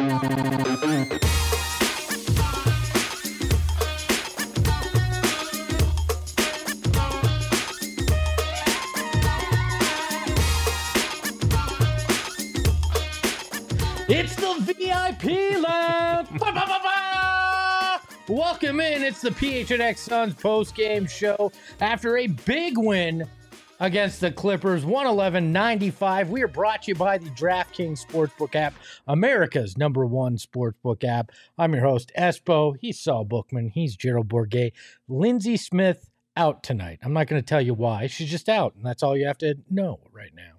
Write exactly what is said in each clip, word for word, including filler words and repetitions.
It's the V I P Lounge. Ba, ba, ba, ba. Welcome in. It's the P H N X Suns post-game show after a big win against the Clippers, one eleven ninety-five. We are brought to you by the DraftKings Sportsbook app, America's number one sportsbook app. I'm your host, Espo. He's Saul Bookman. He's Gerald Bourguet. Lindsey Smith out tonight. I'm not going to tell you why. She's just out, and that's all you have to know right now.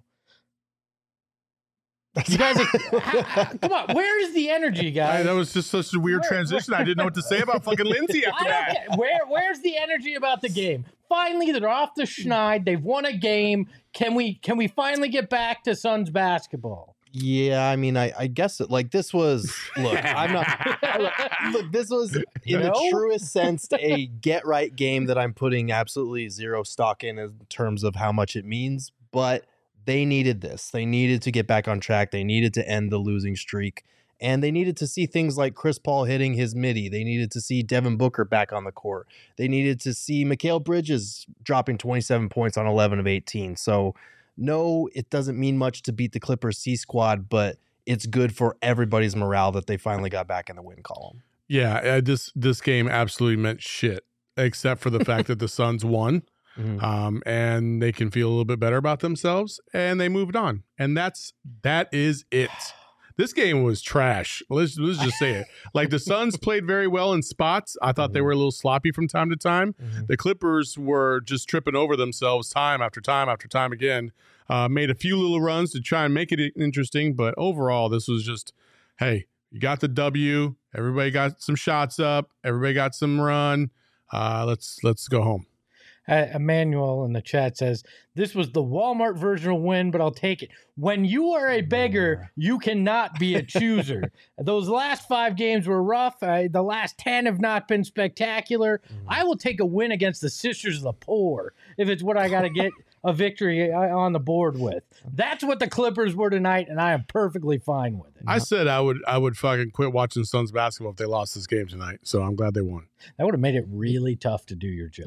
You guys, are, how, how, come on. Where is the energy, guys? Hey, that was just such a weird where, transition. Where, I didn't know what to say about fucking Lindsey after that. Care. Where, where's the energy about the game? Finally, they're off the schneid. They've won a game. Can we can we finally get back to Suns basketball? Yeah, I mean, I, I guess it, like this was. Look, I'm not. Look, this was in no? the truest sense a get right game that I'm putting absolutely zero stock in in terms of how much it means, but. They needed this. They needed to get back on track. They needed to end the losing streak. And they needed to see things like Chris Paul hitting his midi. They needed to see Devin Booker back on the court. They needed to see Mikal Bridges dropping twenty-seven points on eleven of eighteen. So, no, it doesn't mean much to beat the Clippers C squad, but it's good for everybody's morale that they finally got back in the win column. Yeah, uh, this this game absolutely meant shit, except for the fact that the Suns won. Mm-hmm. Um, and they can feel a little bit better about themselves, and they moved on. And that's that is it. This game was trash. Let's let's just say it. Like the Suns played very well in spots. I thought mm-hmm. they were a little sloppy from time to time. Mm-hmm. The Clippers were just tripping over themselves time after time after time again. Uh, made a few little runs to try and make it interesting, but overall, this was just, hey, you got the W. Everybody got some shots up. Everybody got some run. Uh, let's let's go home. Uh, Emmanuel in the chat says, this was the Walmart version of win, but I'll take it. When you are a beggar, you cannot be a chooser. Those last five games were rough. Uh, the last ten have not been spectacular. Mm. I will take a win against the Sisters of the Poor if it's what I got to get a victory on the board with. That's what the Clippers were tonight, and I am perfectly fine with it. I said I would I would fucking quit watching Suns basketball if they lost this game tonight, so I'm glad they won. That would have made it really tough to do your job.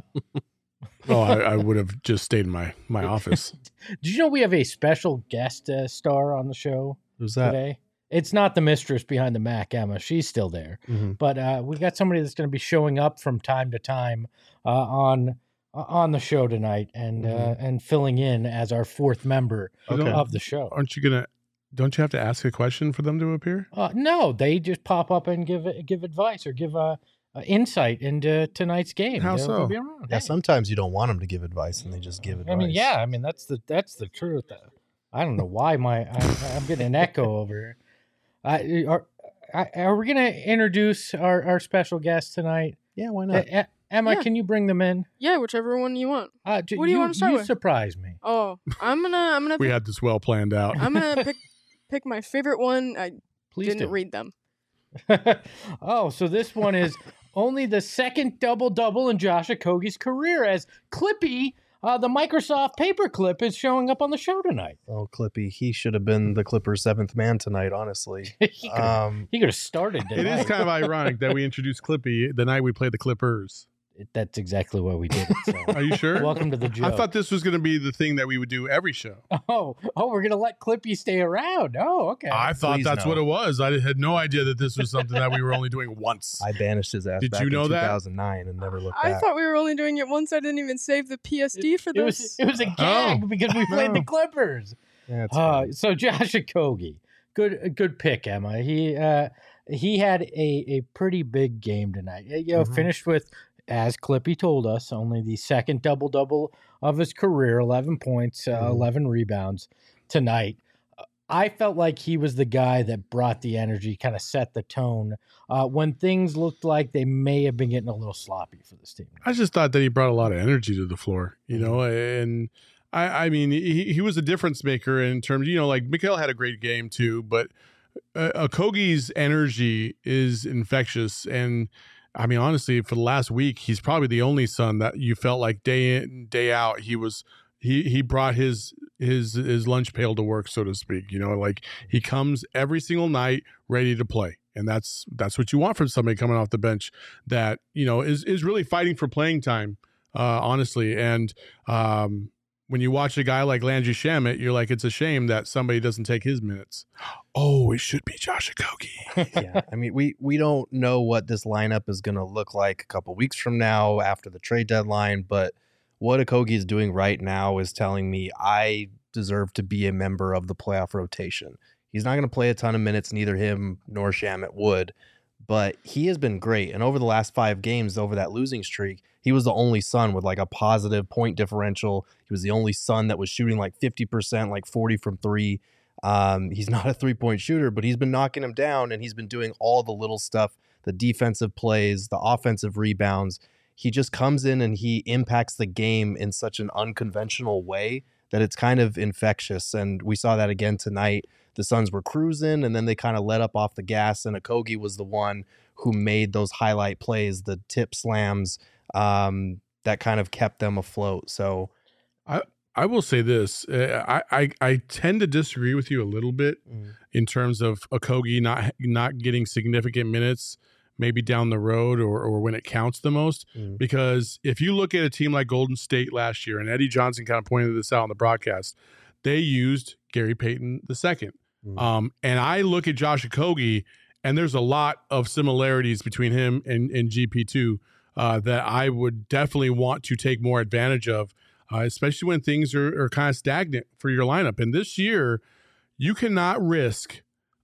Oh, I, I would have just stayed in my, my office. Did you know we have a special guest uh, star on the show Who's that? today? It's not the mistress behind the Mac, Emma. She's still there. Mm-hmm. But uh, we got somebody that's going to be showing up from time to time uh, on uh, on the show tonight and mm-hmm. uh, and filling in as our fourth member okay. of the show. Aren't you going to – don't you have to ask a question for them to appear? Uh, no, they just pop up and give give advice or give a – Uh, insight into tonight's game. How they'll, so? they'll be around. Yeah, hey. Sometimes you don't want them to give advice, and they just give advice. I mean, yeah, I mean that's the that's the truth. I don't know why my I, I'm getting an echo over here. I, are are we going to introduce our, our special guest tonight? Yeah, why not? Uh, Emma, yeah. can you bring them in? Yeah, whichever one you want. Uh, what do you, you want to start you with? Surprise me. Oh, I'm gonna I'm gonna. we pick, had this well planned out. I'm gonna pick pick my favorite one. I Please didn't do. read them. Oh, so this one is only the second double-double in Josh Okogie's career as Clippy, uh, the Microsoft paperclip, is showing up on the show tonight. Oh, Clippy. He should have been the Clippers' seventh man tonight, honestly. he could have um, started tonight. It is kind of ironic that we introduced Clippy the night we played the Clippers. That's exactly why we did it. So. Are you sure? Welcome to the joke. I thought this was going to be the thing that we would do every show. Oh, oh, we're going to let Clippy stay around. Oh, okay. I thought Please that's no. what it was. I had no idea that this was something that we were only doing once. I banished his ass Did back you know in that? two thousand nine and never looked I back. thought we were only doing it once. I didn't even save the P S D for it, it this. Was, it was a gag Oh. because we played the Clippers. Yeah, uh, so Josh Okogie, good good pick, Emma. He uh, he had a, a pretty big game tonight. You know, mm-hmm. finished with, as Clippy told us, only the second double-double of his career, eleven points, uh, mm-hmm. eleven rebounds tonight. I felt like he was the guy that brought the energy, kind of set the tone uh, when things looked like they may have been getting a little sloppy for this team. I just thought that he brought a lot of energy to the floor, you know, and I, I mean, he, he was a difference maker in terms, you know, like Mikal had a great game too, but uh, Okogie's energy is infectious. And I mean, honestly, for the last week, he's probably the only Sun that you felt like day in, day out, he was he he brought his his his lunch pail to work, so to speak. You know, like he comes every single night ready to play. And that's that's what you want from somebody coming off the bench that, you know, is is really fighting for playing time, uh, honestly. And um, when you watch a guy like Landry Shamet, you're like, it's a shame that somebody doesn't take his minutes. Oh, it should be Josh Okogie. Yeah, I mean, we we don't know what this lineup is going to look like a couple weeks from now after the trade deadline, but what Okogie is doing right now is telling me I deserve to be a member of the playoff rotation. He's not going to play a ton of minutes, neither him nor Shamet would, but he has been great. And over the last five games, over that losing streak, he was the only Sun with like a positive point differential. He was the only Sun that was shooting like fifty percent, like forty from three. Um, he's not a three-point shooter, but he's been knocking him down, and he's been doing all the little stuff, the defensive plays, the offensive rebounds. He just comes in and he impacts the game in such an unconventional way that it's kind of infectious. And we saw that again tonight. The Suns were cruising, and then they kind of let up off the gas, and Okogie was the one who made those highlight plays, the tip slams, um, that kind of kept them afloat. So I I will say this. Uh, I, I I tend to disagree with you a little bit mm. in terms of Okogie not not getting significant minutes maybe down the road or, or when it counts the most. Mm. Because if you look at a team like Golden State last year, and Eddie Johnson kind of pointed this out on the broadcast, they used Gary Payton the second. Mm. Um, and I look at Josh Okogie, and there's a lot of similarities between him and, and G P two uh, that I would definitely want to take more advantage of, uh, especially when things are, are kind of stagnant for your lineup. And this year, you cannot risk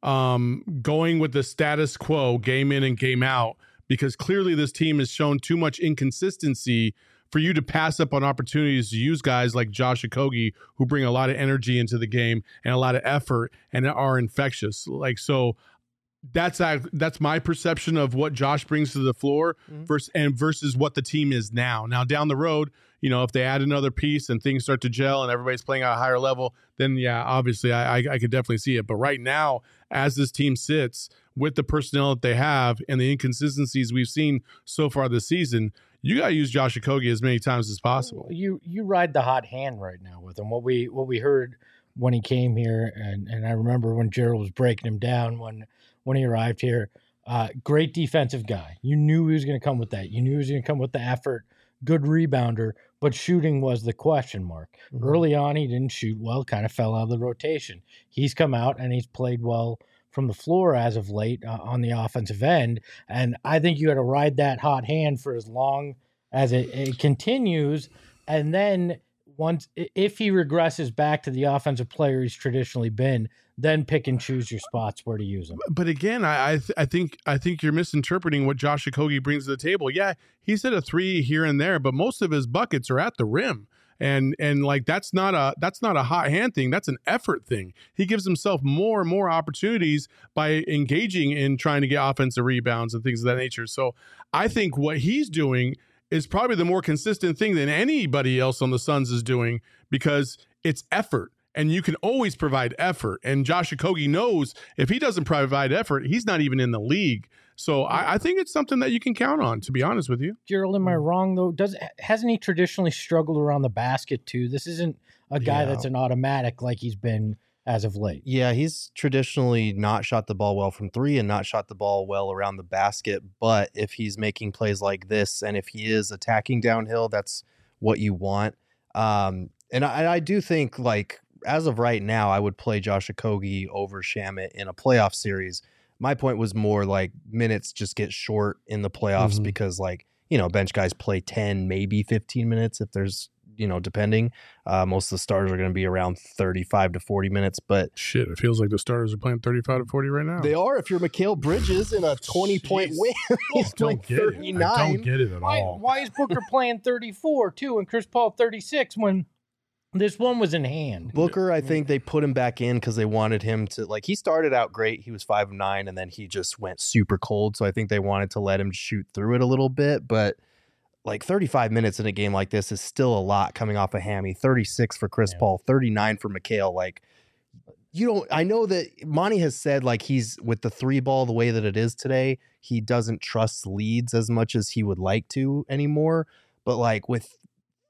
um, going with the status quo game in and game out, because clearly this team has shown too much inconsistency for you to pass up on opportunities to use guys like Josh Okogie, who bring a lot of energy into the game and a lot of effort and are infectious. Like, so that's that's my perception of what Josh brings to the floor mm-hmm. versus and versus what the team is now. Now down the road, you know, if they add another piece and things start to gel and everybody's playing at a higher level, then yeah, obviously I, I, I could definitely see it. But right now, as this team sits with the personnel that they have and the inconsistencies we've seen so far this season, you got to use Josh Okogie as many times as possible. You you ride the hot hand right now with him. What we what we heard when he came here, and, and I remember when Gerald was breaking him down when when he arrived here. Uh, great defensive guy. You knew he was going to come with that. You knew he was going to come with the effort. Good rebounder, but shooting was the question mark. Mm-hmm. Early on, he didn't shoot well, kind of fell out of the rotation. He's come out and he's played well from the floor as of late uh, on the offensive end. And I think you got to ride that hot hand for as long as it, it continues. And then once, if he regresses back to the offensive player he's traditionally been, then pick and choose your spots where to use him. But again, I I, th- I think I think you're misinterpreting what Josh Okogie brings to the table. Yeah, he's hit a three here and there, but most of his buckets are at the rim. And and like that's not a that's not a hot hand thing. That's an effort thing. He gives himself more and more opportunities by engaging in trying to get offensive rebounds and things of that nature. So I think what he's doing is probably the more consistent thing than anybody else on the Suns is doing, because it's effort. And you can always provide effort. And Josh Okogie knows if he doesn't provide effort, he's not even in the league. So I, I think it's something that you can count on, to be honest with you. Gerald, am I wrong, though? Does hasn't he traditionally struggled around the basket, too? This isn't a guy yeah. that's an automatic like he's been as of late. Yeah, he's traditionally not shot the ball well from three and not shot the ball well around the basket. But if he's making plays like this and if he is attacking downhill, that's what you want. Um, and I, I do think, like, as of right now, I would play Josh Okogie over Shamet in a playoff series. My point was more like minutes just get short in the playoffs mm-hmm. because, like, you know, bench guys play ten, maybe fifteen minutes if there's, you know, depending. Uh, most of the starters are going to be around thirty-five to forty minutes. But shit, it feels like the starters are playing thirty-five to forty right now. They are if you're Mikal Bridges in a twenty-point win. He's playing thirty-nine. I don't get it at why, all. Why is Booker playing thirty-four, too, and Chris Paul thirty-six when this one was in hand? Booker, I think they put him back in because they wanted him to, like, he started out great. He was five of nine, and then he just went super cold. So I think they wanted to let him shoot through it a little bit. But, like, thirty-five minutes in a game like this is still a lot coming off a hammy. thirty-six for Chris yeah. Paul, thirty-nine for Mikal. Like, you don't, I know that Monty has said, like, he's with the three ball the way that it is today, he doesn't trust leads as much as he would like to anymore. But, like, with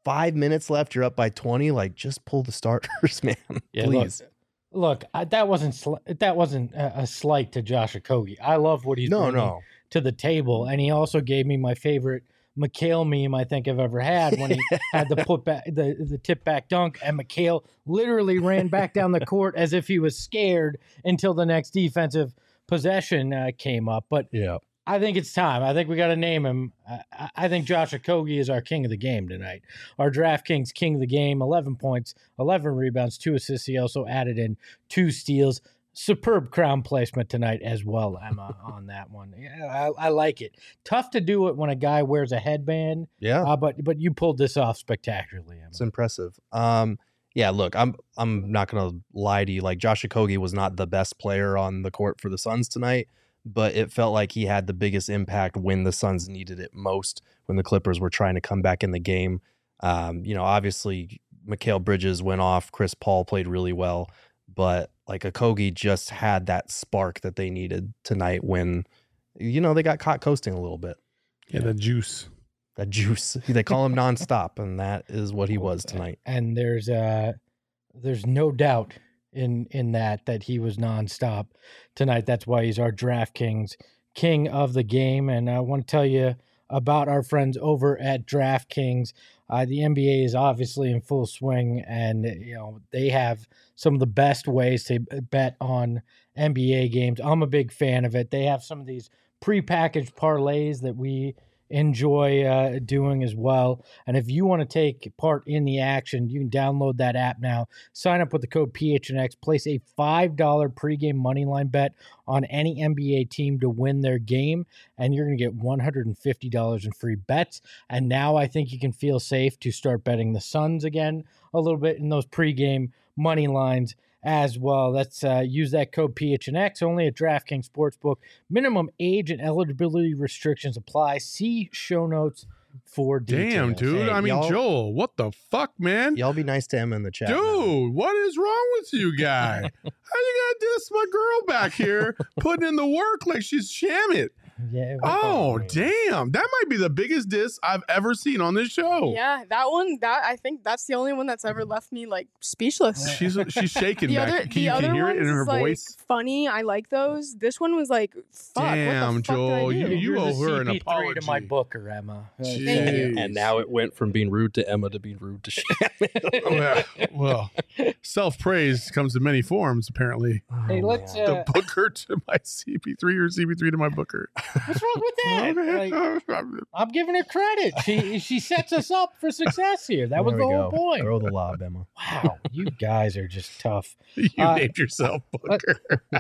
five minutes left. You're up by twenty. Like, just pull the starters, man. Yeah, Please. Look, look I, that wasn't sl- that wasn't a, a slight to Josh Okogie. I love what he's No, bringing no. to the table, and he also gave me my favorite McHale meme I think I've ever had when he had the put back the the tip back dunk, and McHale literally ran back down the court as if he was scared until the next defensive possession uh, came up. But Yeah. I think it's time. I think we got to name him. I, I think Josh Okogie is our king of the game tonight. Our DraftKings king of the game, eleven points, eleven rebounds, two assists. He also added in two steals. Superb crown placement tonight as well, Emma, on that one. Yeah, I, I like it. Tough to do it when a guy wears a headband, Yeah. uh, but but you pulled this off spectacularly, Emma. It's impressive. Um, yeah, look, I'm I'm not gonna lie to you. Like, Josh Okogie was not the best player on the court for the Suns tonight, but it felt like he had the biggest impact when the Suns needed it most, when the Clippers were trying to come back in the game. Um, you know, obviously Mikal Bridges went off, Chris Paul played really well, but like Okogie just had that spark that they needed tonight when, you know, they got caught coasting a little bit. Yeah, the juice. That juice. They call him nonstop, and that is what he was tonight. And there's uh there's no doubt in in that that he was nonstop tonight. That's why he's our DraftKings king of the game. And I want to tell you about our friends over at DraftKings. Uh, the N B A is obviously in full swing, and you know they have some of the best ways to bet on N B A games. I'm a big fan of it. They have some of these prepackaged parlays that we enjoy uh, doing as well. And if you want to take part in the action, you can download that app now. Sign up with the code P H N X. Place a five dollars pregame moneyline bet on any N B A team to win their game, and you're going to get one hundred fifty dollars in free bets. And now I think you can feel safe to start betting the Suns again a little bit in those pregame money lines as well. Let's uh, use that code P H N X only at DraftKings Sportsbook. Minimum age and eligibility restrictions apply. See show notes for details. Damn, dude. Hey, I mean, y'all- Joel, what the fuck, man? Y'all be nice to Emma in the chat. now. Dude, what is wrong with you, guy? How you gonna diss my girl back here, putting in the work like she's Shamit? Yeah, Oh, damn. That might be the biggest diss I've ever seen on this show. Yeah, that one. That I think that's the only one that's ever left me like speechless. She's she's shaking The back. other, Can the you, can other you hear ones it in her is, like, voice? funny. I like those. This one was like, fuck. Damn, what the fuck did I Joel, do? you- You're owe the her an C P three to my apology. booker, Emma. Uh, Jeez. thank you. And now it went from being rude to Emma to being rude to Shannon. well, well self praise comes in many forms, apparently. Hey, let's. man. Uh, The booker to my C P three or C P three to my booker. what's wrong with that? Like, I'm giving her credit. She she sets us up for success here. That was There the we whole go. point. Throw the lob, Emma. Wow, you guys are just tough. you Uh, named yourself booker.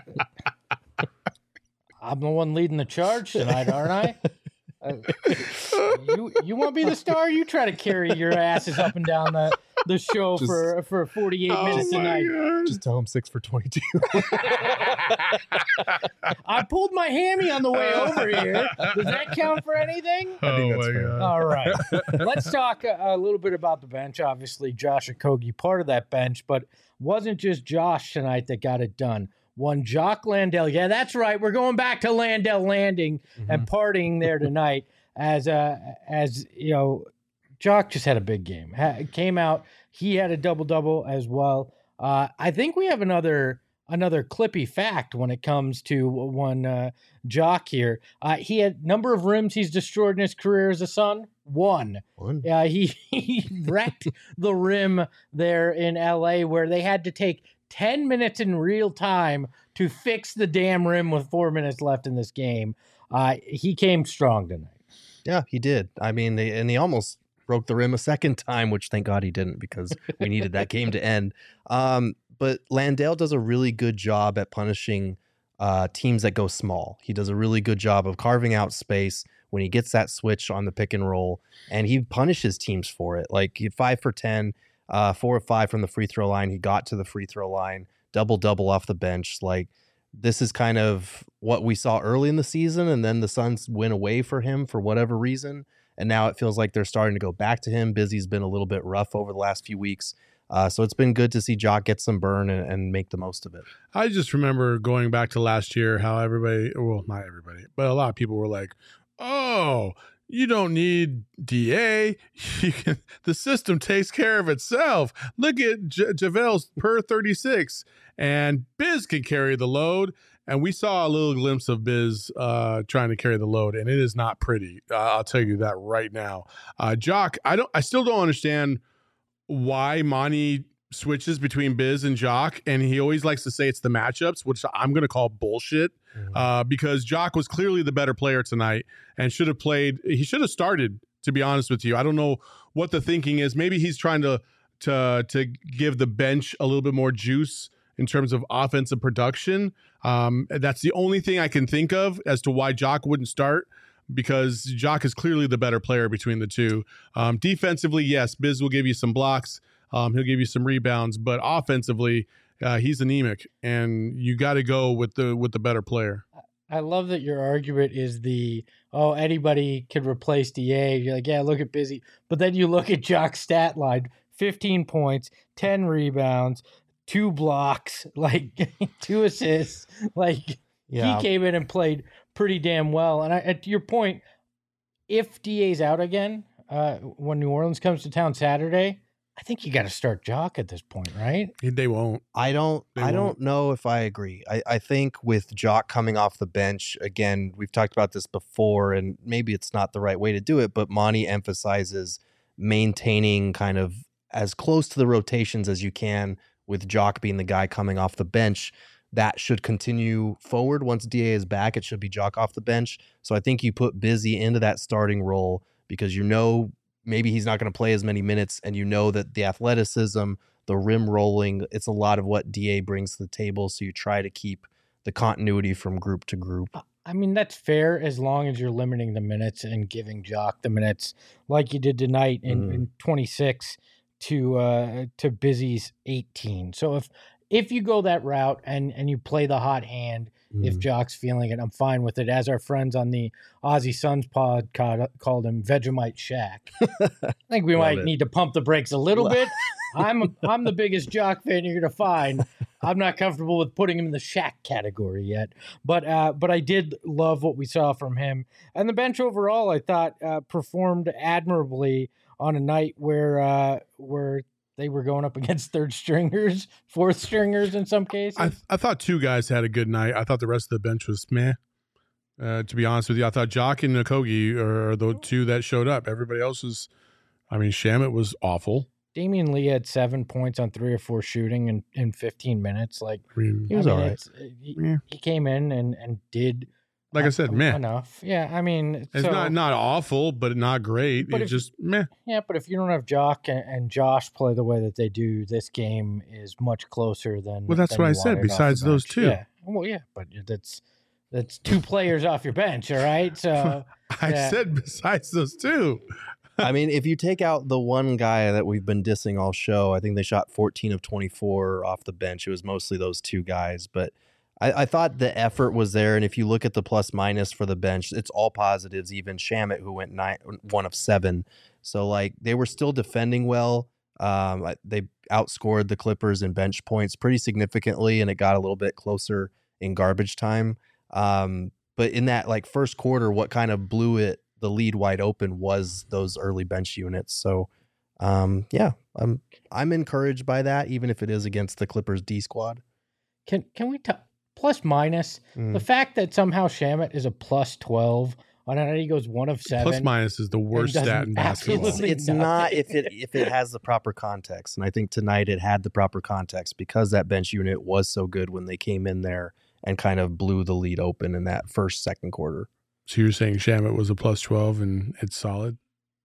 I'm the one leading the charge tonight, aren't I? Uh, you you want to be the star? You try to carry your asses up and down the, the show Just- for for forty-eight Oh minutes my tonight. God. Just tell him six for twenty-two. I pulled my hammy on the way over here. Does that count for anything? I think Oh that's my fair. God. All right. Let's talk a, a little bit about the bench. Obviously, Josh Okogie part of that bench, but wasn't just Josh tonight that got it done. One Jock Landale. Yeah, that's right. We're going back to Landale Landing and partying there tonight. As uh, as you know, Jock just had a big game. Ha- came out. He had a double double as well. Uh, I think we have another another clippy fact when it comes to one uh, Jock here. Uh, he had number of rims he's destroyed in his career as a Sun. One. One. Yeah, he, he wrecked the rim there in L A where they had to take ten minutes in real time to fix the damn rim with four minutes left in this game. Uh, he came strong tonight. Yeah, he did. I mean, they, and he almost broke the rim a second time, which thank God he didn't because we needed that game to end. Um, but Landale does a really good job at punishing uh, teams that go small. He does a really good job of carving out space when he gets that switch on the pick and roll, and he punishes teams for it. Like he five for ten, uh, four or five from the free throw line. He got to the free throw line, double double off the bench. Like this is kind of what we saw early in the season, and then the Suns went away for him for whatever reason, and now it feels like they're starting to go back to him. Busy's been a little bit rough over the last few weeks. Uh, so it's been good to see Jock get some burn and, and make the most of it. I just remember going back to last year how everybody, well, not everybody, but a lot of people were like, oh, You don't need D A. You can, the system takes care of itself. Look at J- JaVale's per thirty-six, and Biz can carry the load. And we saw a little glimpse of Biz uh, trying to carry the load, and it is not pretty. Uh, I'll tell you that right now. Uh, Jock, I don't. I still don't understand why Monty switches between Biz and Jock, and he always likes to say it's the matchups, which I'm going to call bullshit. Mm-hmm. Uh, because Jock was clearly the better player tonight and should have played. He should have started, to be honest with you. I don't know what the thinking is. Maybe he's trying to to to give the bench a little bit more juice in terms of offensive production. Um, that's the only thing I can think of as to why Jock wouldn't start, because Jock is clearly the better player between the two. Um, defensively, yes, Biz will give you some blocks. Um, he'll give you some rebounds, but offensively, Uh, he's anemic, and you got to go with the with the better player. I love that your argument is the, oh, anybody could replace D A. You're like, yeah, look at Busy. But then you look at Jock's stat line, fifteen points, ten rebounds, two blocks, like two assists. Like yeah. He came in and played pretty damn well. And I, at your point, if D A's out again, uh, when New Orleans comes to town Saturday, I think you got to start Jock at this point, right? They won't. I don't. They I won't. don't know if I agree. I, I think with Jock coming off the bench again, we've talked about this before, and maybe it's not the right way to do it. But Monty emphasizes maintaining kind of as close to the rotations as you can, with Jock being the guy coming off the bench. That should continue forward once D A is back. It should be Jock off the bench. So I think you put Busy into that starting role because you know. Maybe he's not going to play as many minutes, and you know that the athleticism, the rim rolling, it's a lot of what D A brings to the table, so you try to keep the continuity from group to group. I mean, that's fair as long as you're limiting the minutes and giving Jock the minutes like you did tonight in, mm. in twenty-six to uh, to Busy's eighteen. So if if you go that route and, and you play the hot hand, mm. if Jock's feeling it, I'm fine with it. As our friends on the Aussie Suns pod called him Vegemite Shaq. I think we might it. need to pump the brakes a little bit. I'm I'm the biggest Jock fan you're going to find. I'm not comfortable with putting him in the Shaq category yet. But uh, but I did love what we saw from him. And the bench overall, I thought, uh, performed admirably on a night where uh, where they were going up against third stringers, fourth stringers in some cases. I, I thought two guys had a good night. I thought the rest of the bench was meh. Uh, to be honest with you, I thought Jock and Nkogi are the two that showed up. Everybody else was, I mean, Shamet was awful. Damian Lee had seven points on three or four shooting in, in fifteen minutes. Like I mean, he was I mean, all right. He, yeah. he came in and, and did. Like I said, uh, meh. Enough. Yeah, I mean. It's so, not not awful, but not great. But it's if, just meh. Yeah, but if you don't have Jock and, and Josh play the way that they do, this game is much closer than. Well, that's than what I said. Besides those two. Yeah. Well, yeah, but that's that's two players off your bench, all right? So I yeah. said besides those two. I mean, if you take out the one guy that we've been dissing all show, I think they shot fourteen of twenty-four off the bench. It was mostly those two guys, but I, I thought the effort was there. And if you look at the plus minus for the bench, it's all positives. Even Shamet, who went nine, one of seven. So like they were still defending well. Um, they outscored the Clippers in bench points pretty significantly, and it got a little bit closer in garbage time. Um, but in that like first quarter, what kind of blew it, the lead wide open, was those early bench units. So um, yeah, I'm I'm encouraged by that, even if it is against the Clippers D squad. Can can we talk plus minus mm. the fact that somehow Shamet is a plus twelve on a night he goes one of seven. Plus minus is the worst stat in basketball. It's, it's not if it if it has the proper context, and I think tonight it had the proper context because that bench unit was so good when they came in there and kind of blew the lead open in that first second quarter. So you're saying Shamet was a plus twelve and it's solid?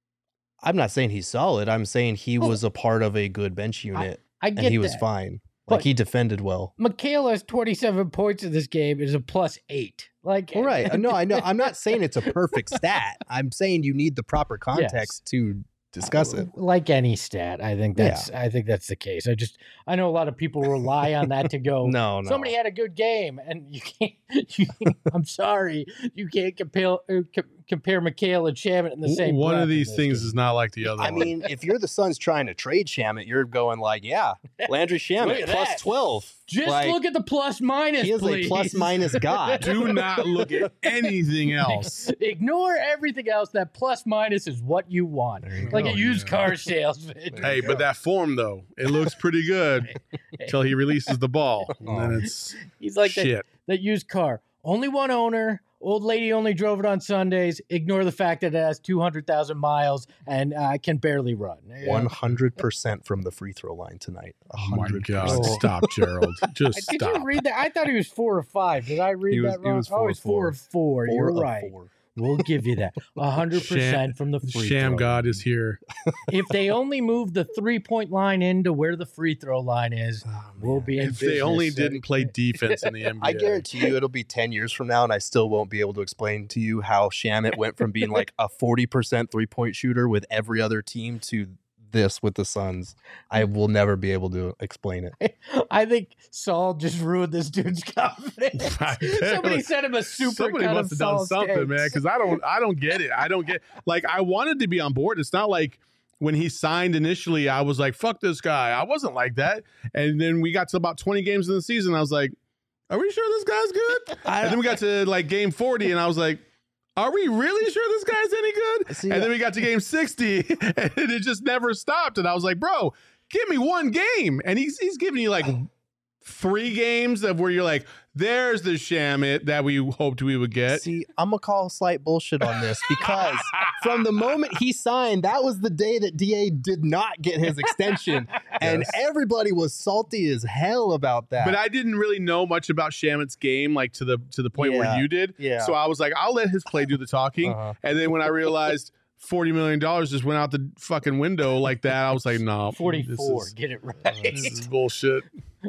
I'm not saying he's solid. I'm saying he was a part of a good bench unit, I, I get and he that. was fine. Like, but he defended well. Mikal has twenty-seven points in this game. Is a plus eight. Like, all right. No, I know. I'm not saying it's a perfect stat. I'm saying you need the proper context yes. to discuss it. Like any stat, I think that's yeah. I think that's the case. I just I know a lot of people rely on that to go. no, no. Somebody had a good game, and you can't. You, I'm sorry, you can't compare uh, co- compare Mikal and Shamet in the same. One of these things game. is not like the other. I one. mean, if you're the Suns trying to trade Shamet, you're going like, yeah, Landry Shamet plus twelve. Just Like, look at the plus minus, He is please. a plus minus god. Do not look at anything else. Ignore everything else. That plus minus is what you want. you Like go. a used Yeah. car salesman. Hey, but that form though, it looks pretty good until he releases the ball, and then it's He's like that, shit. that used car. Only one owner. Old lady only drove it on Sundays. Ignore the fact that it has two hundred thousand miles and uh, can barely run. Yeah. One hundred percent from the free throw line tonight. A Oh my hundred God! percent. Stop, Gerald. Just Did stop. you read that? I thought he was four or five. Did I read He was- that he wrong? was oh, four he's or four. four or four. Four You're of right. four. We'll give you that. A hundred percent from the free Sham throw. God is here. If they only move the three point line into where the free throw line is, Oh, we'll man. be in If they business. only So- didn't play defense in the N B A, I guarantee you it'll be ten years from now and I still won't be able to explain to you how Shamit went from being like a forty percent three-point shooter with every other team to this with the Suns. I will never be able to explain it. I think Saul just ruined this dude's confidence. Somebody sent him a super Somebody cut must of have done Saul's something, takes. man. Because I don't, I don't get it. I don't get. Like, I wanted to be on board. It's not like when he signed initially, I was like, "Fuck this guy." I wasn't like that. And then we got to about twenty games in the season. I was like, "Are we sure this guy's good?" And then we got to like game forty, and I was like, "Are we really sure this guy's any good?" See, And then we got to game sixty, and it just never stopped. And I was like, "Bro, give me one game." And he's he's giving you like three games of where you're like, "There's the Shamit that we hoped we would get." See, I'm gonna call slight bullshit on this because from the moment he signed, that was the day that D A did not get his extension, and Yes. everybody was salty as hell about that. But I didn't really know much about Shamit's game, like to the to the point Yeah. where you did. Yeah. So I was like, I'll let his play do the talking. Uh-huh. And then when I realized forty million dollars just went out the fucking window like that, I was like, no, forty-four. This is, Get it right. this is bullshit.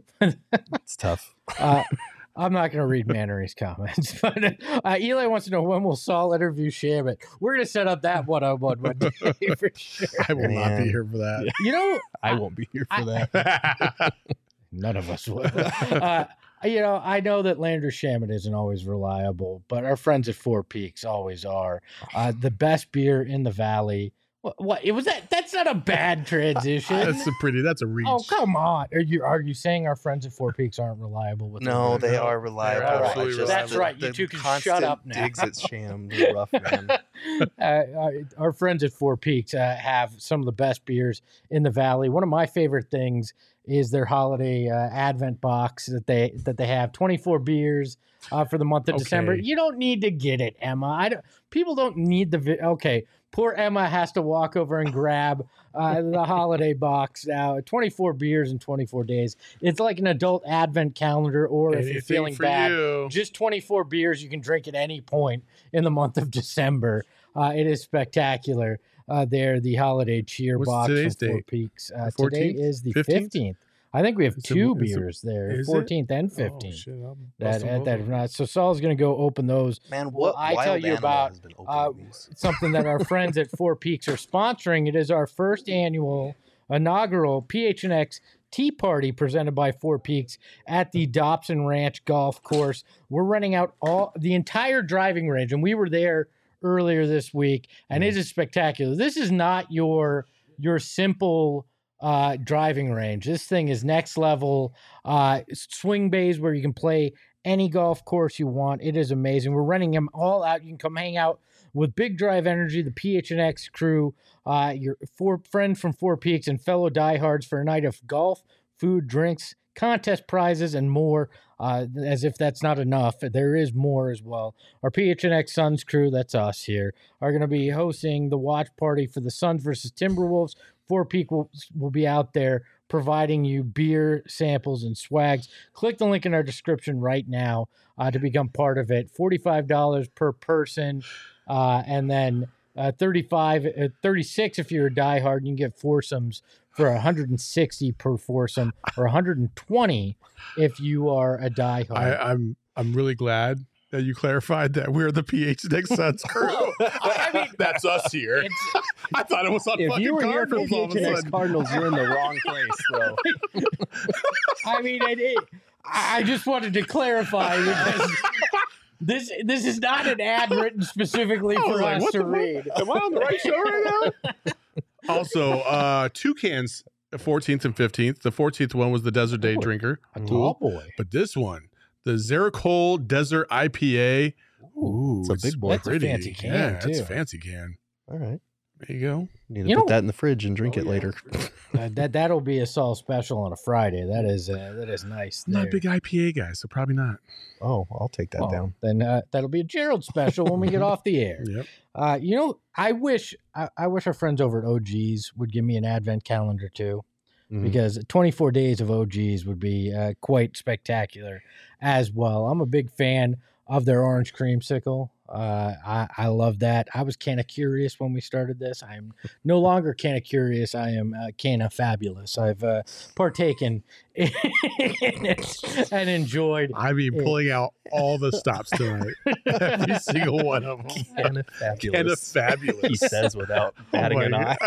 It's tough. Uh, I'm not going to read Mannery's comments, but uh, Eli wants to know when will Saul interview Shamit. We're going to set up that one-on-one one day for sure. I will not Man. be here for that. You know, I won't be here for I- that. none of us will. Uh, you know, I know that Landry Shamit isn't always reliable, but our friends at Four Peaks always are. Uh, the best beer in the valley. What, what? It was that? That's not a bad transition. That's a pretty. That's a reach. Oh, come on! Are you are you saying our friends at Four Peaks aren't reliable with their No, beer? they are reliable. They're I absolutely just- That's the- right. You the two can shut constant up now. Digs at Sham. They're rough, man. uh, our, our friends at Four Peaks uh, have some of the best beers in the valley. One of my favorite things is their holiday uh, Advent box that they that they have. twenty-four beers uh, for the month of Okay. December. You don't need to get it, Emma. I don't. People don't need the. Vi- okay, poor Emma has to walk over and grab uh, the holiday box now. twenty-four beers in twenty-four days. It's like an adult Advent calendar, or if you're Anything feeling for bad, you. just twenty-four beers you can drink at any point in the month of December. Uh, it is spectacular. Uh, there, the holiday cheer What's box today's from Four date? Peaks. Uh, The today fourteenth? is the fifteenth? fifteenth. I think we have Is it- two is it- beers there, is it? fourteenth and Oh, fifteenth. shit, I'll that, bust them at both that, open. uh, so Saul's going to go open those. Man, Well, what I wild tell you animal about, has been uh, opening these? Something that our friends at Four Peaks are sponsoring. It is our first annual inaugural P H N X Tea Party presented by Four Peaks at the Dobson Ranch Golf Course. We're renting out all the entire driving range, and we were there earlier this week, and it is spectacular. This is not your your simple uh, driving range. This thing is next level. Uh, swing bays where you can play any golf course you want. It is amazing. We're renting them all out. You can come hang out with Big Drive Energy, the P H N X crew, uh, your four friend from Four Peaks, and fellow diehards for a night of golf, food, drinks, contest prizes, and more. Uh, as if that's not enough, there is more as well. Our P H N X Suns crew, that's us here, are going to be hosting the watch party for the Suns versus Timberwolves. Four Peak will, will be out there providing you beer samples and swags. Click the link in our description right now uh, to become part of it. forty-five dollars per person, uh, and then uh, thirty-five, uh, thirty-six if you're a diehard. You can get foursomes for one hundred sixty per foursome, or one hundred twenty if you are a diehard. I, I'm I'm really glad that you clarified that we're the P H N X Suns crew. I mean, that's us here. It's, I thought it was on If fucking you were here for Cardinals all of P H a N X sudden. Cardinals, you're in the wrong place, bro. I mean, it, it, I just wanted to clarify because this this is not an ad written specifically I was for like, us what to the fuck? read. Am I on the right show right now? Also, uh, Toucans fourteenth and fifteenth. The fourteenth one was the Desert Day Oh, Drinker. A Cool. tall boy. But this one, the Zeracol Desert I P A. Ooh, It's a big boy. That's a pretty. fancy can, yeah, too. It's a fancy can. All right. There you go. Need to You put know- that in the fridge and drink Oh, it yeah. later. Uh, that that'll be a Saul special on a Friday. That is uh, that is nice. I'm not a there. big I P A guy, so probably not. Oh, I'll take that Well, down. Then uh, that'll be a Gerald special when we get off the air. Yep. Uh, you know, I wish I, I wish our friends over at O G's would give me an advent calendar too, Mhm. because twenty-four days of O G's would be uh, quite spectacular as well. I'm a big fan of their orange creamsicle. Uh, I, I love that. I was kind of curious when we started this. I'm no longer kind of curious. I am uh, kind of fabulous. I've uh, partaken in it and enjoyed. I mean, Yeah. pulling out all the stops tonight. Every single one of them. Kind of fabulous. Kind of fabulous. He says without batting my an eye.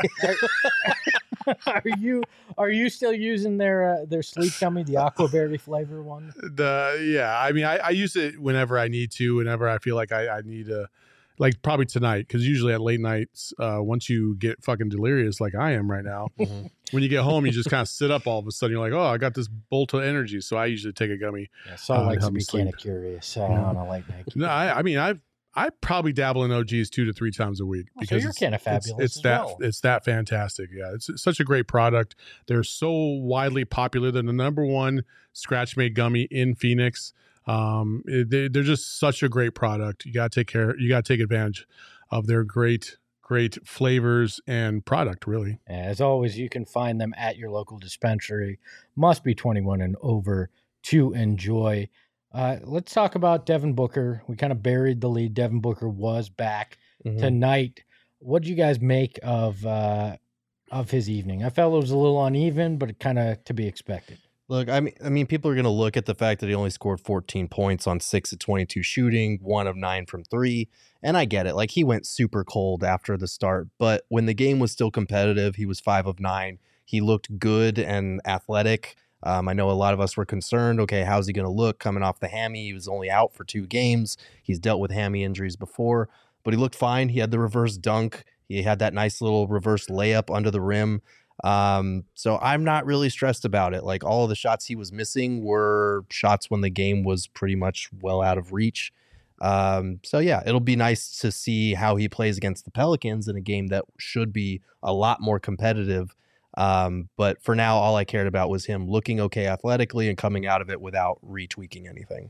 Are you are you still using their uh, their sleep gummy, the aquaberry flavor one? The yeah, I mean, I, I use it whenever I need to, whenever I feel like I, I need to, like probably tonight, because usually at late nights, uh, once you get fucking delirious like I am right now, Mhm. when you get home, you just kind of sit up all of a sudden. You're like, oh, I got this bolt of energy, so I usually take a gummy. Yeah, Saul Uh, likes to help me be sleep. kind of curious uh, Yeah. on a late night. No, I, I mean, I I probably dabble in O Gs two to three times a week Oh, so because you're it's- kinda it's- fabulous It's, as that well. it's that fantastic. Yeah, it's, it's such a great product. They're so widely popular. They're the number one scratch made gummy in Phoenix. Um, it- they, they're just such a great product. You got to take care. You got to take advantage of their great great flavors and product. Really. As always, you can find them at your local dispensary. Must be twenty-one and over to enjoy. Uh, let's talk about Devin Booker. We kind of buried the lead. Devin Booker was back Mhm. tonight. What did you guys make of uh, of his evening? I felt it was a little uneven, but kind of to be expected. Look, I mean, I mean, people are going to look at the fact that he only scored fourteen points on six of twenty-two shooting, one of nine from three, and I get it. Like, he went super cold after the start, but when the game was still competitive, he was five of nine. He looked good and athletic. Um, I know a lot of us were concerned. Okay, how's he going to look coming off the hammy? He was only out for two games. He's dealt with hammy injuries before, but he looked fine. He had the reverse dunk. He had that nice little reverse layup under the rim. Um, so I'm not really stressed about it. Like, all of the shots he was missing were shots when the game was pretty much well out of reach. Um, so yeah, it'll be nice to see how he plays against the Pelicans in a game that should be a lot more competitive. Um, but for now, all I cared about was him looking okay athletically and coming out of it without retweaking anything.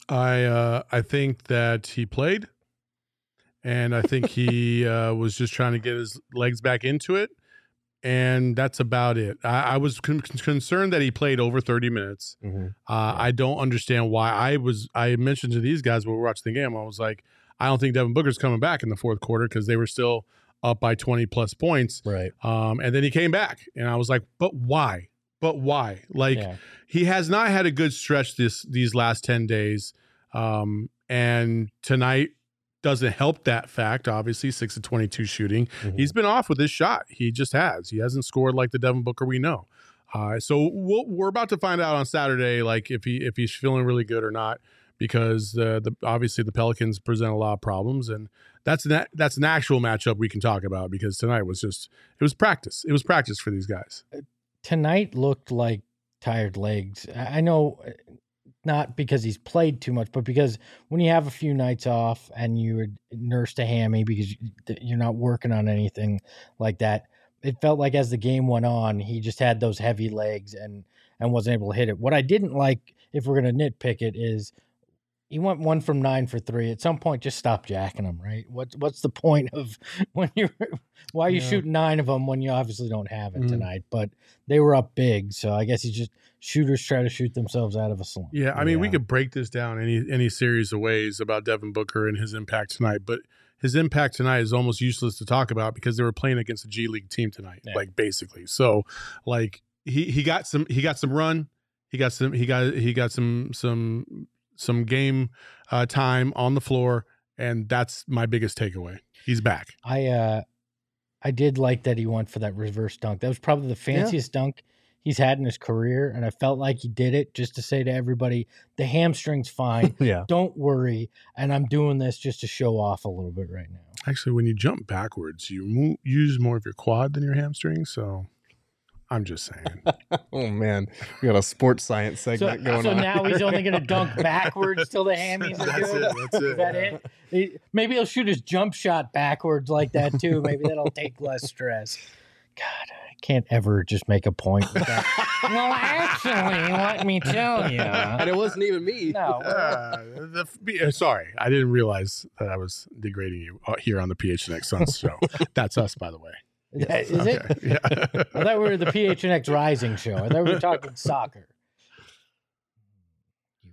I uh, I think that he played, and I think he uh, was just trying to get his legs back into it, and that's about it. I, I was con- concerned that he played over thirty minutes. Mm-hmm. Uh, I don't understand why. I was I mentioned to these guys when we were watching the game, I was like, I don't think Devin Booker's coming back in the fourth quarter because they were still up by twenty plus points. Right. Um, and then he came back, and I was like, but why? But why? Like, Yeah. he has not had a good stretch this these last ten days. Um, and tonight doesn't help that fact. Obviously, six of twenty-two shooting. Mhm. He's been off with his shot. He just has. He hasn't scored like the Devin Booker we know. Uh, so we'll, we're about to find out on Saturday, like if he if he's feeling really good or not, because uh, the obviously the Pelicans present a lot of problems, and that's an that's an actual matchup we can talk about because tonight was just it was practice. It was practice for these guys. Tonight looked like tired legs. I I know uh, not because he's played too much, but because when you have a few nights off and you nursed a hammy because you- you're not working on anything like that, it felt like as the game went on, he just had those heavy legs and and wasn't able to hit it. What I didn't like, if we're going to nitpick it, is he went one from nine for three. At some point, just stop jacking them, right? What's what's the point of when you're why are you Yeah. shooting nine of them when you obviously don't have it Mm. tonight? But they were up big, so I guess he's just shooters try to shoot themselves out of a slump. Yeah, I mean, we Yeah. could break this down any any series of ways about Devin Booker and his impact tonight, but his impact tonight is almost useless to talk about because they were playing against a G League team tonight, Yeah. like basically. So, like he he got some he got some run, he got some he got he got some some some game uh, time on the floor, and that's my biggest takeaway. He's back. I uh I did like that he went for that reverse dunk. That was probably the fanciest dunk he's had in his career, and I felt like he did it just to say to everybody, the hamstring's fine. Yeah. Don't worry, and I'm doing this just to show off a little bit right now. Actually, when you jump backwards, you move, use more of your quad than your hamstring. So I'm just saying. Oh man, we got a sports science So, segment going so on. now he's only going to dunk backwards till the hammies are That's good. it. That's it. Is that it? He- maybe he'll shoot his jump shot backwards like that too. Maybe that'll take less stress. God, I can't ever just make a point with that. Well, actually, let me tell you. And it wasn't even me. No. Uh, the, be- uh, sorry, I didn't realize that I was degrading you uh, here on the P H N X Suns show. That's us, by the way. Is it? Okay, yeah. I thought we were the P H N X Rising show. I thought we were talking soccer. You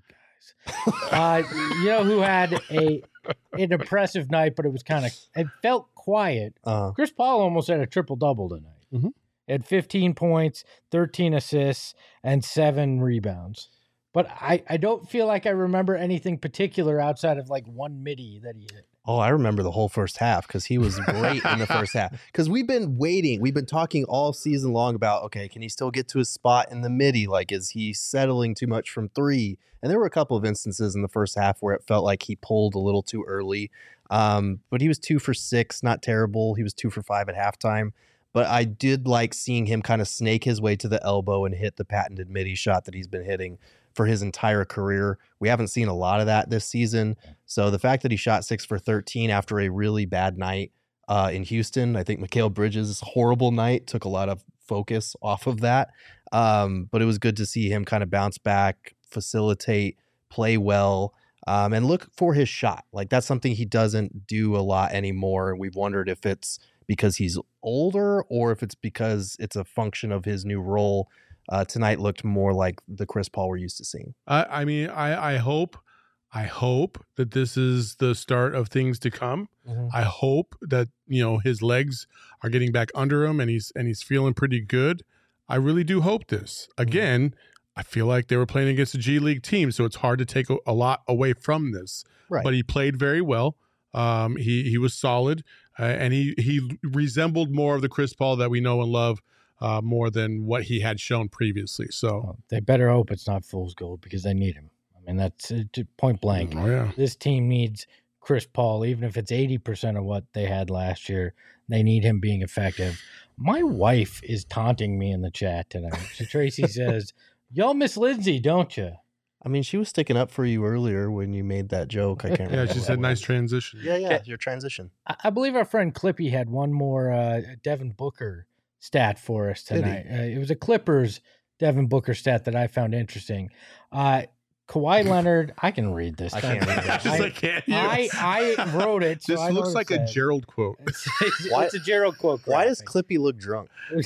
guys. Uh, you know who had a an impressive night, but it was kind of, it felt quiet. Uh, Chris Paul almost had a triple-double tonight. Mhm. Had fifteen points, thirteen assists, and seven rebounds. But I, I don't feel like I remember anything particular outside of like one midi that he hit. oh, I remember the whole first half because he was great in the first half. Because we've been waiting, we've been talking all season long about, okay, can he still get to his spot in the midi? Like, is he settling too much from three? And there were a couple of instances in the first half where it felt like he pulled a little too early. Um, but he was two for six, not terrible. He was two for five at halftime. But I did like seeing him kind of snake his way to the elbow and hit the patented midi shot that he's been hitting for his entire career. We haven't seen a lot of that this season. So the fact that he shot six for thirteen after a really bad night uh, in Houston, I think Mikal Bridges' horrible night took a lot of focus off of that. Um, but it was good to see him kind of bounce back, facilitate, play well, um, and look for his shot. Like that's something he doesn't do a lot anymore. We've wondered if it's because he's older or if it's because it's a function of his new role. Uh, tonight looked more like the Chris Paul we're used to seeing. I, I mean, I, I hope, I hope that this is the start of things to come. Mm-hmm. I hope that, you know, his legs are getting back under him and he's and he's feeling pretty good. I really do hope this. Again, I feel like they were playing against a G League team, so it's hard to take a, a lot away from this. Right. But he played very well. Um, he he was solid, uh, and he he resembled more of the Chris Paul that we know and love, uh, more than what he had shown previously. So Well, they better hope it's not fool's gold because they need him. I mean, that's uh, to point blank. oh yeah, This team needs Chris Paul, even if it's eighty percent of what they had last year. They need him being effective. My wife is taunting me in the chat tonight. So Tracy says, y'all miss Lindsay, don't you? I mean, she was sticking up for you earlier when you made that joke. I can't yeah. remember. She what said it nice was. transition. Yeah, yeah, your transition. I, I believe our friend Clippy had one more uh, Devin Booker stat for us Did he? tonight. Uh, it was a Clippers Devin Booker stat that I found interesting. Uh, Kawhi Leonard, I can read this. I don't can't worry. read it. Just I, like, can't you? I, I wrote it. So This I know looks what like it a says. Gerald quote. It's, it's, Why- it's a Gerald quote. Why does graphic. Clippy look drunk?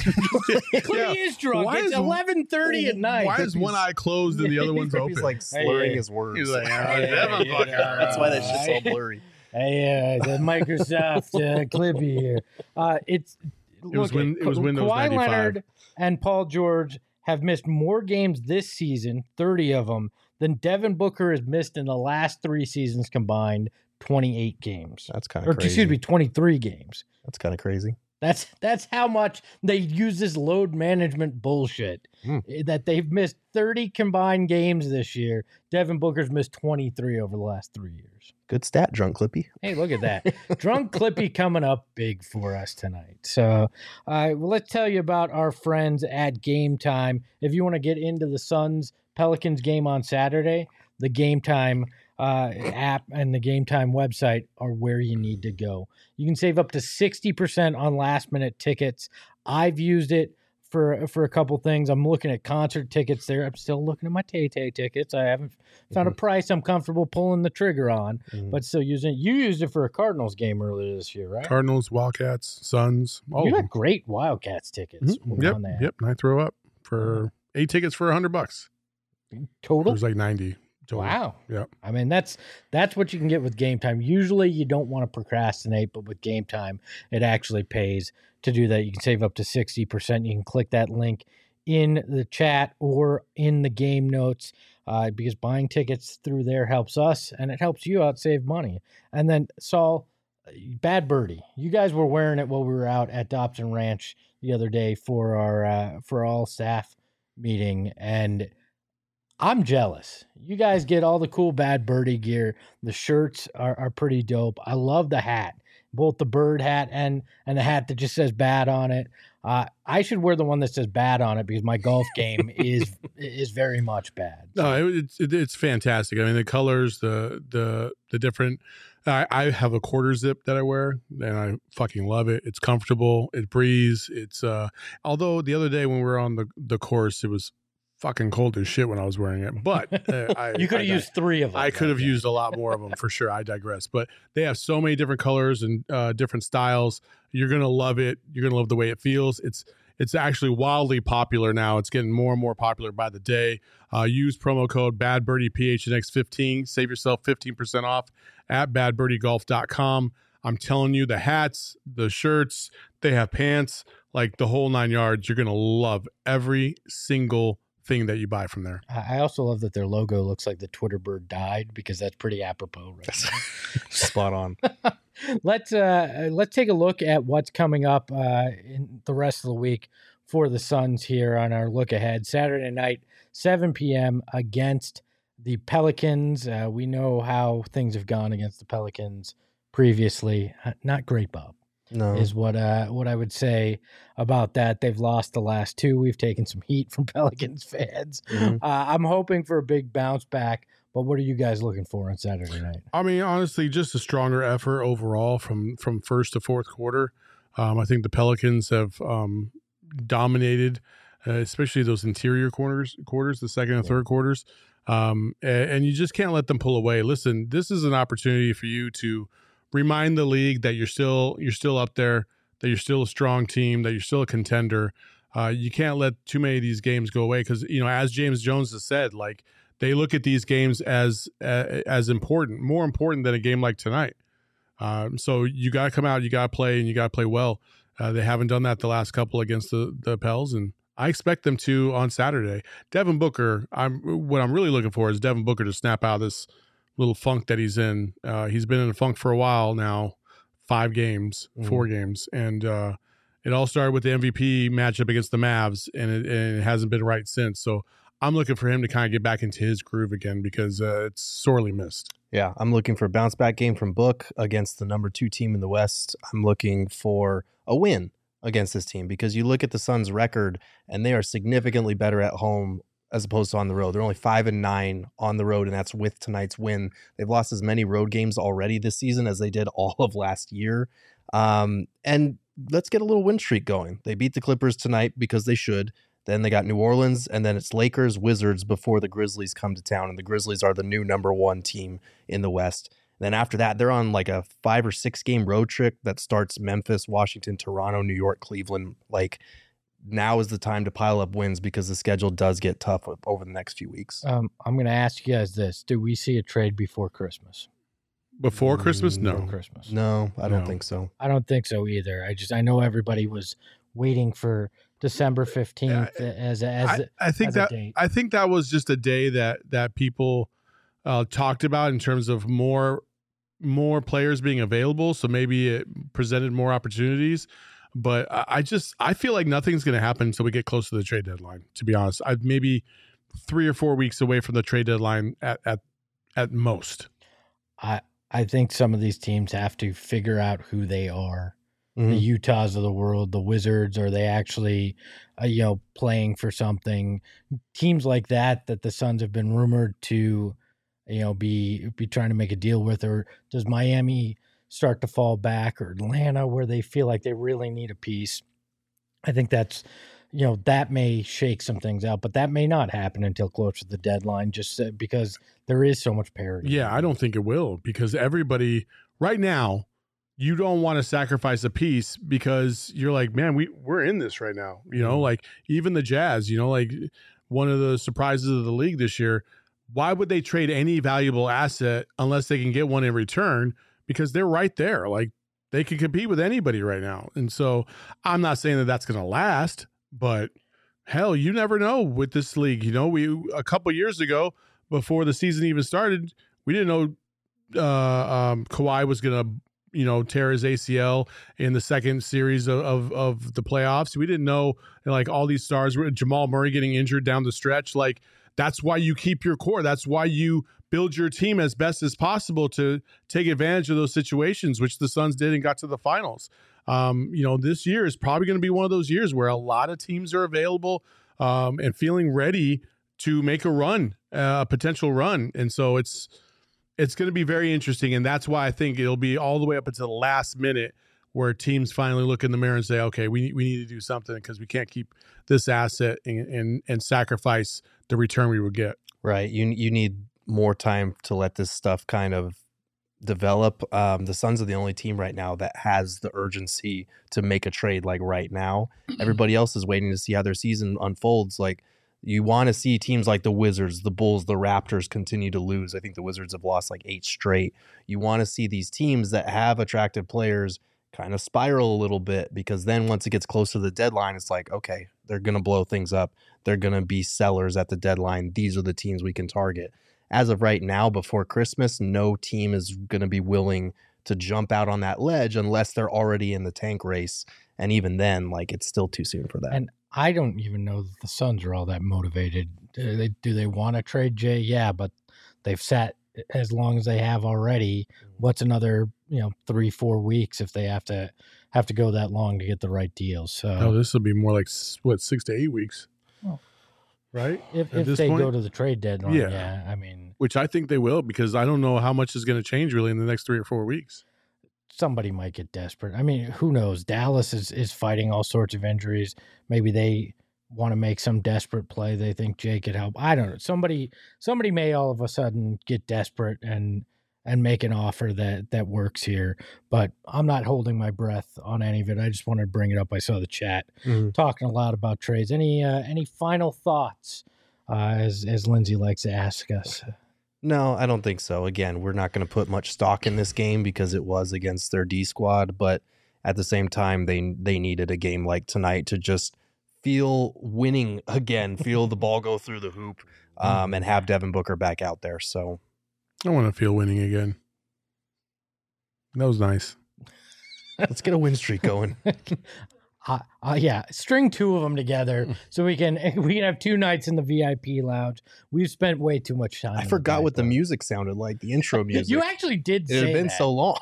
Clippy Yeah. is drunk. Why it's is- eleven thirty at night. Why is one eye closed and the other one's open? Clippy's like slurring Hey, his words. He's like, "Ah, Hey, Devin you Booker." know, That's why that shit's all I- blurry. Hey, uh, the Microsoft uh, Clippy here. Uh, it's It was look, win- it was Windows Kawhi ninety-five. Leonard and Paul George have missed more games this season, thirty of them, than Devin Booker has missed in the last three seasons combined, twenty-eight games. That's kind Or of crazy. excuse me, twenty-three games. That's kind of crazy. That's that's how much they use this load management bullshit. Hmm. eh, That they've missed thirty combined games this year. Devin Booker's missed twenty-three over the last three years. Good stat, drunk Clippy. Hey, look at that. Drunk Clippy coming up big for us tonight. So uh, well, let's tell you about our friends at Game Time. If you want to get into the Suns Pelicans game on Saturday, the Game Time uh, app and the Game Time website are where you need to go. You can save up to sixty percent on last minute tickets. I've used it for for a couple things. I'm looking at concert tickets there. I'm still looking at my Tay-Tay tickets. I haven't found a price I'm comfortable pulling the trigger on, Mhm. but still using it. You used it for a Cardinals game earlier this year, right? Cardinals, Wildcats, Suns, all You of got them. great Wildcats tickets Mhm. on Yep, that. yep. And I throw up for eight tickets for a hundred bucks. It Total? was like ninety. Total. Wow. Yep. I mean, that's that's what you can get with Game Time. Usually you don't want to procrastinate, but with Game Time, it actually pays to do that. You can save up to sixty percent. You can click that link in the chat or in the game notes uh, because buying tickets through there helps us and it helps you out save money. And then, Saul, Bad Birdie, you guys were wearing it while we were out at Dobson Ranch the other day for our uh, for all staff meeting, and I'm jealous. You guys get all the cool Bad Birdie gear. The shirts are, are pretty dope. I love the hat. both the bird hat and and the hat that just says bad on it. Uh, I should wear the one that says bad on it because my golf game is is very much bad. So. No, it, it's it, it's fantastic. I mean, the colors, the the the different. I, I have a quarter zip that I wear, and I fucking love it. It's comfortable. It breathes. It's uh. Although the other day when we were on the the course, it was fucking cold as shit when I was wearing it. But uh, I, you could have I, used three of them. I could have yeah. used a lot more of them for sure. I digress. But they have so many different colors and uh, different styles. You're gonna love it. You're gonna love the way it feels. It's it's actually wildly popular now. It's getting more and more popular by the day. Uh, use promo code Bad Birdie P H N X fifteen. Save yourself fifteen percent off at bad birdie golf dot com. I'm telling you, the hats, the shirts, they have pants, like the whole nine yards. You're gonna love every single thing that you buy from there. I also love that their logo looks like the Twitter bird died because that's pretty apropos right now. Spot on. let's uh let's take a look at what's coming up uh in the rest of the week for the Suns here on our look ahead. Saturday night, seven p.m. against the Pelicans. Uh, we know how things have gone against the Pelicans previously. Uh, not great, Bob. No. Is what uh what I would say about that. They've lost the last two. We've taken some heat from Pelicans fans. Mm-hmm. Uh, I'm hoping for a big bounce back. But what are you guys looking for on Saturday night? I mean, honestly, just a stronger effort overall from from first to fourth quarter. Um, I think the Pelicans have um, dominated, uh, especially those interior quarters, quarters, the second and yeah. third quarters. Um, and, and you just can't let them pull away. Listen, this is an opportunity for you to remind the league that you're still you're still up there, that you're still a strong team, that you're still a contender. Uh, you can't let too many of these games go away because, you know, as James Jones has said, like, they look at these games as uh, as important, more important than a game like tonight. Um, so you got to come out, you got to play, and you got to play well. Uh, they haven't done that the last couple against the the Pels, and I expect them to on Saturday. Devin Booker, I'm what I'm really looking for is Devin Booker to snap out of this little funk that he's in. Uh, he's been in a funk for a while now, five games, mm. four games, and uh, it all started with the M V P matchup against the Mavs, and it, and it hasn't been right since. So I'm looking for him to kind of get back into his groove again because uh, it's sorely missed. Yeah, I'm looking for a bounce back game from Book against the number two team in the West. I'm looking for a win against this team because you look at the Suns' record and they are significantly better at home as opposed to on the road. They're only five and nine on the road, and that's with tonight's win. They've lost as many road games already this season as they did all of last year. Um, and let's get a little win streak going. They beat the Clippers tonight because they should. Then they got New Orleans, and then it's Lakers, Wizards before the Grizzlies come to town, and the Grizzlies are the new number one team in the West. And then after that, they're on like a five or six game road trip that starts Memphis, Washington, Toronto, New York, Cleveland. Like, now is the time to pile up wins because the schedule does get tough over the next few weeks. Um, I'm going to ask you guys this. Do we see a trade before Christmas? Before Christmas? No. Before Christmas. No, I don't no. think so. I don't think so either. I just, I know everybody was waiting for December fifteenth yeah, as a, as a, I, I think as that a date. I think that was just a day that that people uh, talked about in terms of more more players being available, so maybe it presented more opportunities. But I, I just I feel like nothing's going to happen until we get close to the trade deadline. To be honest, I maybe three or four weeks away from the trade deadline at at at most. I I think some of these teams have to figure out who they are. Mm-hmm. The Utahs of the world, the Wizards, are they actually, uh, you know, playing for something? Teams like that that the Suns have been rumored to, you know, be be trying to make a deal with, or does Miami start to fall back, or Atlanta where they feel like they really need a piece? I think that's, you know, that may shake some things out, but that may not happen until close to the deadline, just because there is so much parity. Yeah, I don't think it will because everybody right now. You don't want to sacrifice a piece because you're like, man, we we're in this right now. You know, like even the Jazz, you know, like one of the surprises of the league this year. Why would they trade any valuable asset unless they can get one in return? Because they're right there. Like they can compete with anybody right now. And so I'm not saying that that's going to last, but hell, you never know with this league. You know, we a couple years ago before the season even started, we didn't know uh, um, Kawhi was going to, you know, tear his A C L in the second series of, of, of the playoffs. We didn't know, like, all these stars, Jamal Murray getting injured down the stretch. Like, that's why you keep your core. That's why you build your team as best as possible to take advantage of those situations, which the Suns did and got to the finals. Um, you know, this year is probably going to be one of those years where a lot of teams are available um, and feeling ready to make a run, uh, a potential run. And so it's it's going to be very interesting. And that's why I think it'll be all the way up until the last minute where teams finally look in the mirror and say, okay, we, we need to do something because we can't keep this asset and, and, and sacrifice the return we would get. Right. You, you need more time to let this stuff kind of develop. Um, the Suns are the only team right now that has the urgency to make a trade like right now. Everybody else is waiting to see how their season unfolds. Like, you want to see teams like the Wizards, the Bulls, the Raptors continue to lose. I think the Wizards have lost like eight straight. You want to see these teams that have attractive players kind of spiral a little bit, because then once it gets close to the deadline, it's like, okay, they're going to blow things up. They're going to be sellers at the deadline. These are the teams we can target. As of right now, before Christmas, no team is going to be willing to jump out on that ledge unless they're already in the tank race. And even then, like, it's still too soon for that. And I don't even know that the Suns are all that motivated. Do they, do they want to trade Jay? Yeah, but they've sat as long as they have already. What's another, you know, three, four weeks if they have to have to go that long to get the right deal? So oh, this will be more like what, six to eight weeks, oh. right? If, if they point? go to the trade deadline, yeah. yeah, I mean, which I think they will, because I don't know how much is going to change really in the next three or four weeks. Somebody might get desperate. I mean, who knows? Dallas is, is fighting all sorts of injuries. Maybe they want to make some desperate play. They think Jay could help. I don't know. Somebody somebody may all of a sudden get desperate and and make an offer that that works here. But I'm not holding my breath on any of it. I just wanted to bring it up. I saw the chat mm-hmm. talking a lot about trades. Any uh, any final thoughts, uh, as as Lindsay likes to ask us? No, I don't think so. Again, we're not going to put much stock in this game because it was against their D squad, but at the same time, they they needed a game like tonight to just feel winning again, feel the ball go through the hoop, um, and have Devin Booker back out there. So I want to feel winning again. That was nice. Let's get a win streak going. Uh, uh, yeah, string two of them together so we can we can have two nights in the V I P lounge. We've spent way too much time. I forgot what the music sounded like, the intro music. You actually did say that. It had been that. so long.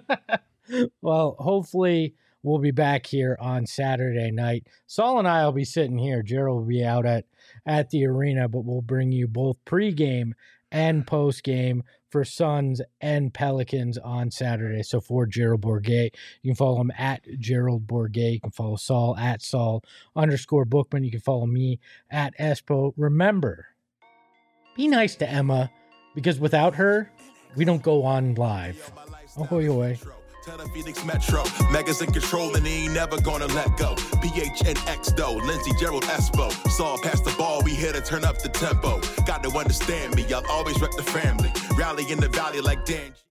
Well, hopefully we'll be back here on Saturday night. Saul and I will be sitting here. Gerald will be out at, at the arena, but we'll bring you both pregame and postgame for Suns and Pelicans on Saturday. So for Gerald Bourguet, you can follow him at Gerald Bourguet. You can follow Saul at Saul underscore Bookman. You can follow me at Espo. Remember, be nice to Emma, because without her, we don't go on live. Ahoy, ahoy. Tell the Phoenix Metro, Megas in control and he ain't never gonna let go. P H N X though, Lindsey, Gerald, Espo. Saw past the ball, we here to turn up the tempo. Got to understand me, I'll always rep the family. Rally in the valley like Dan.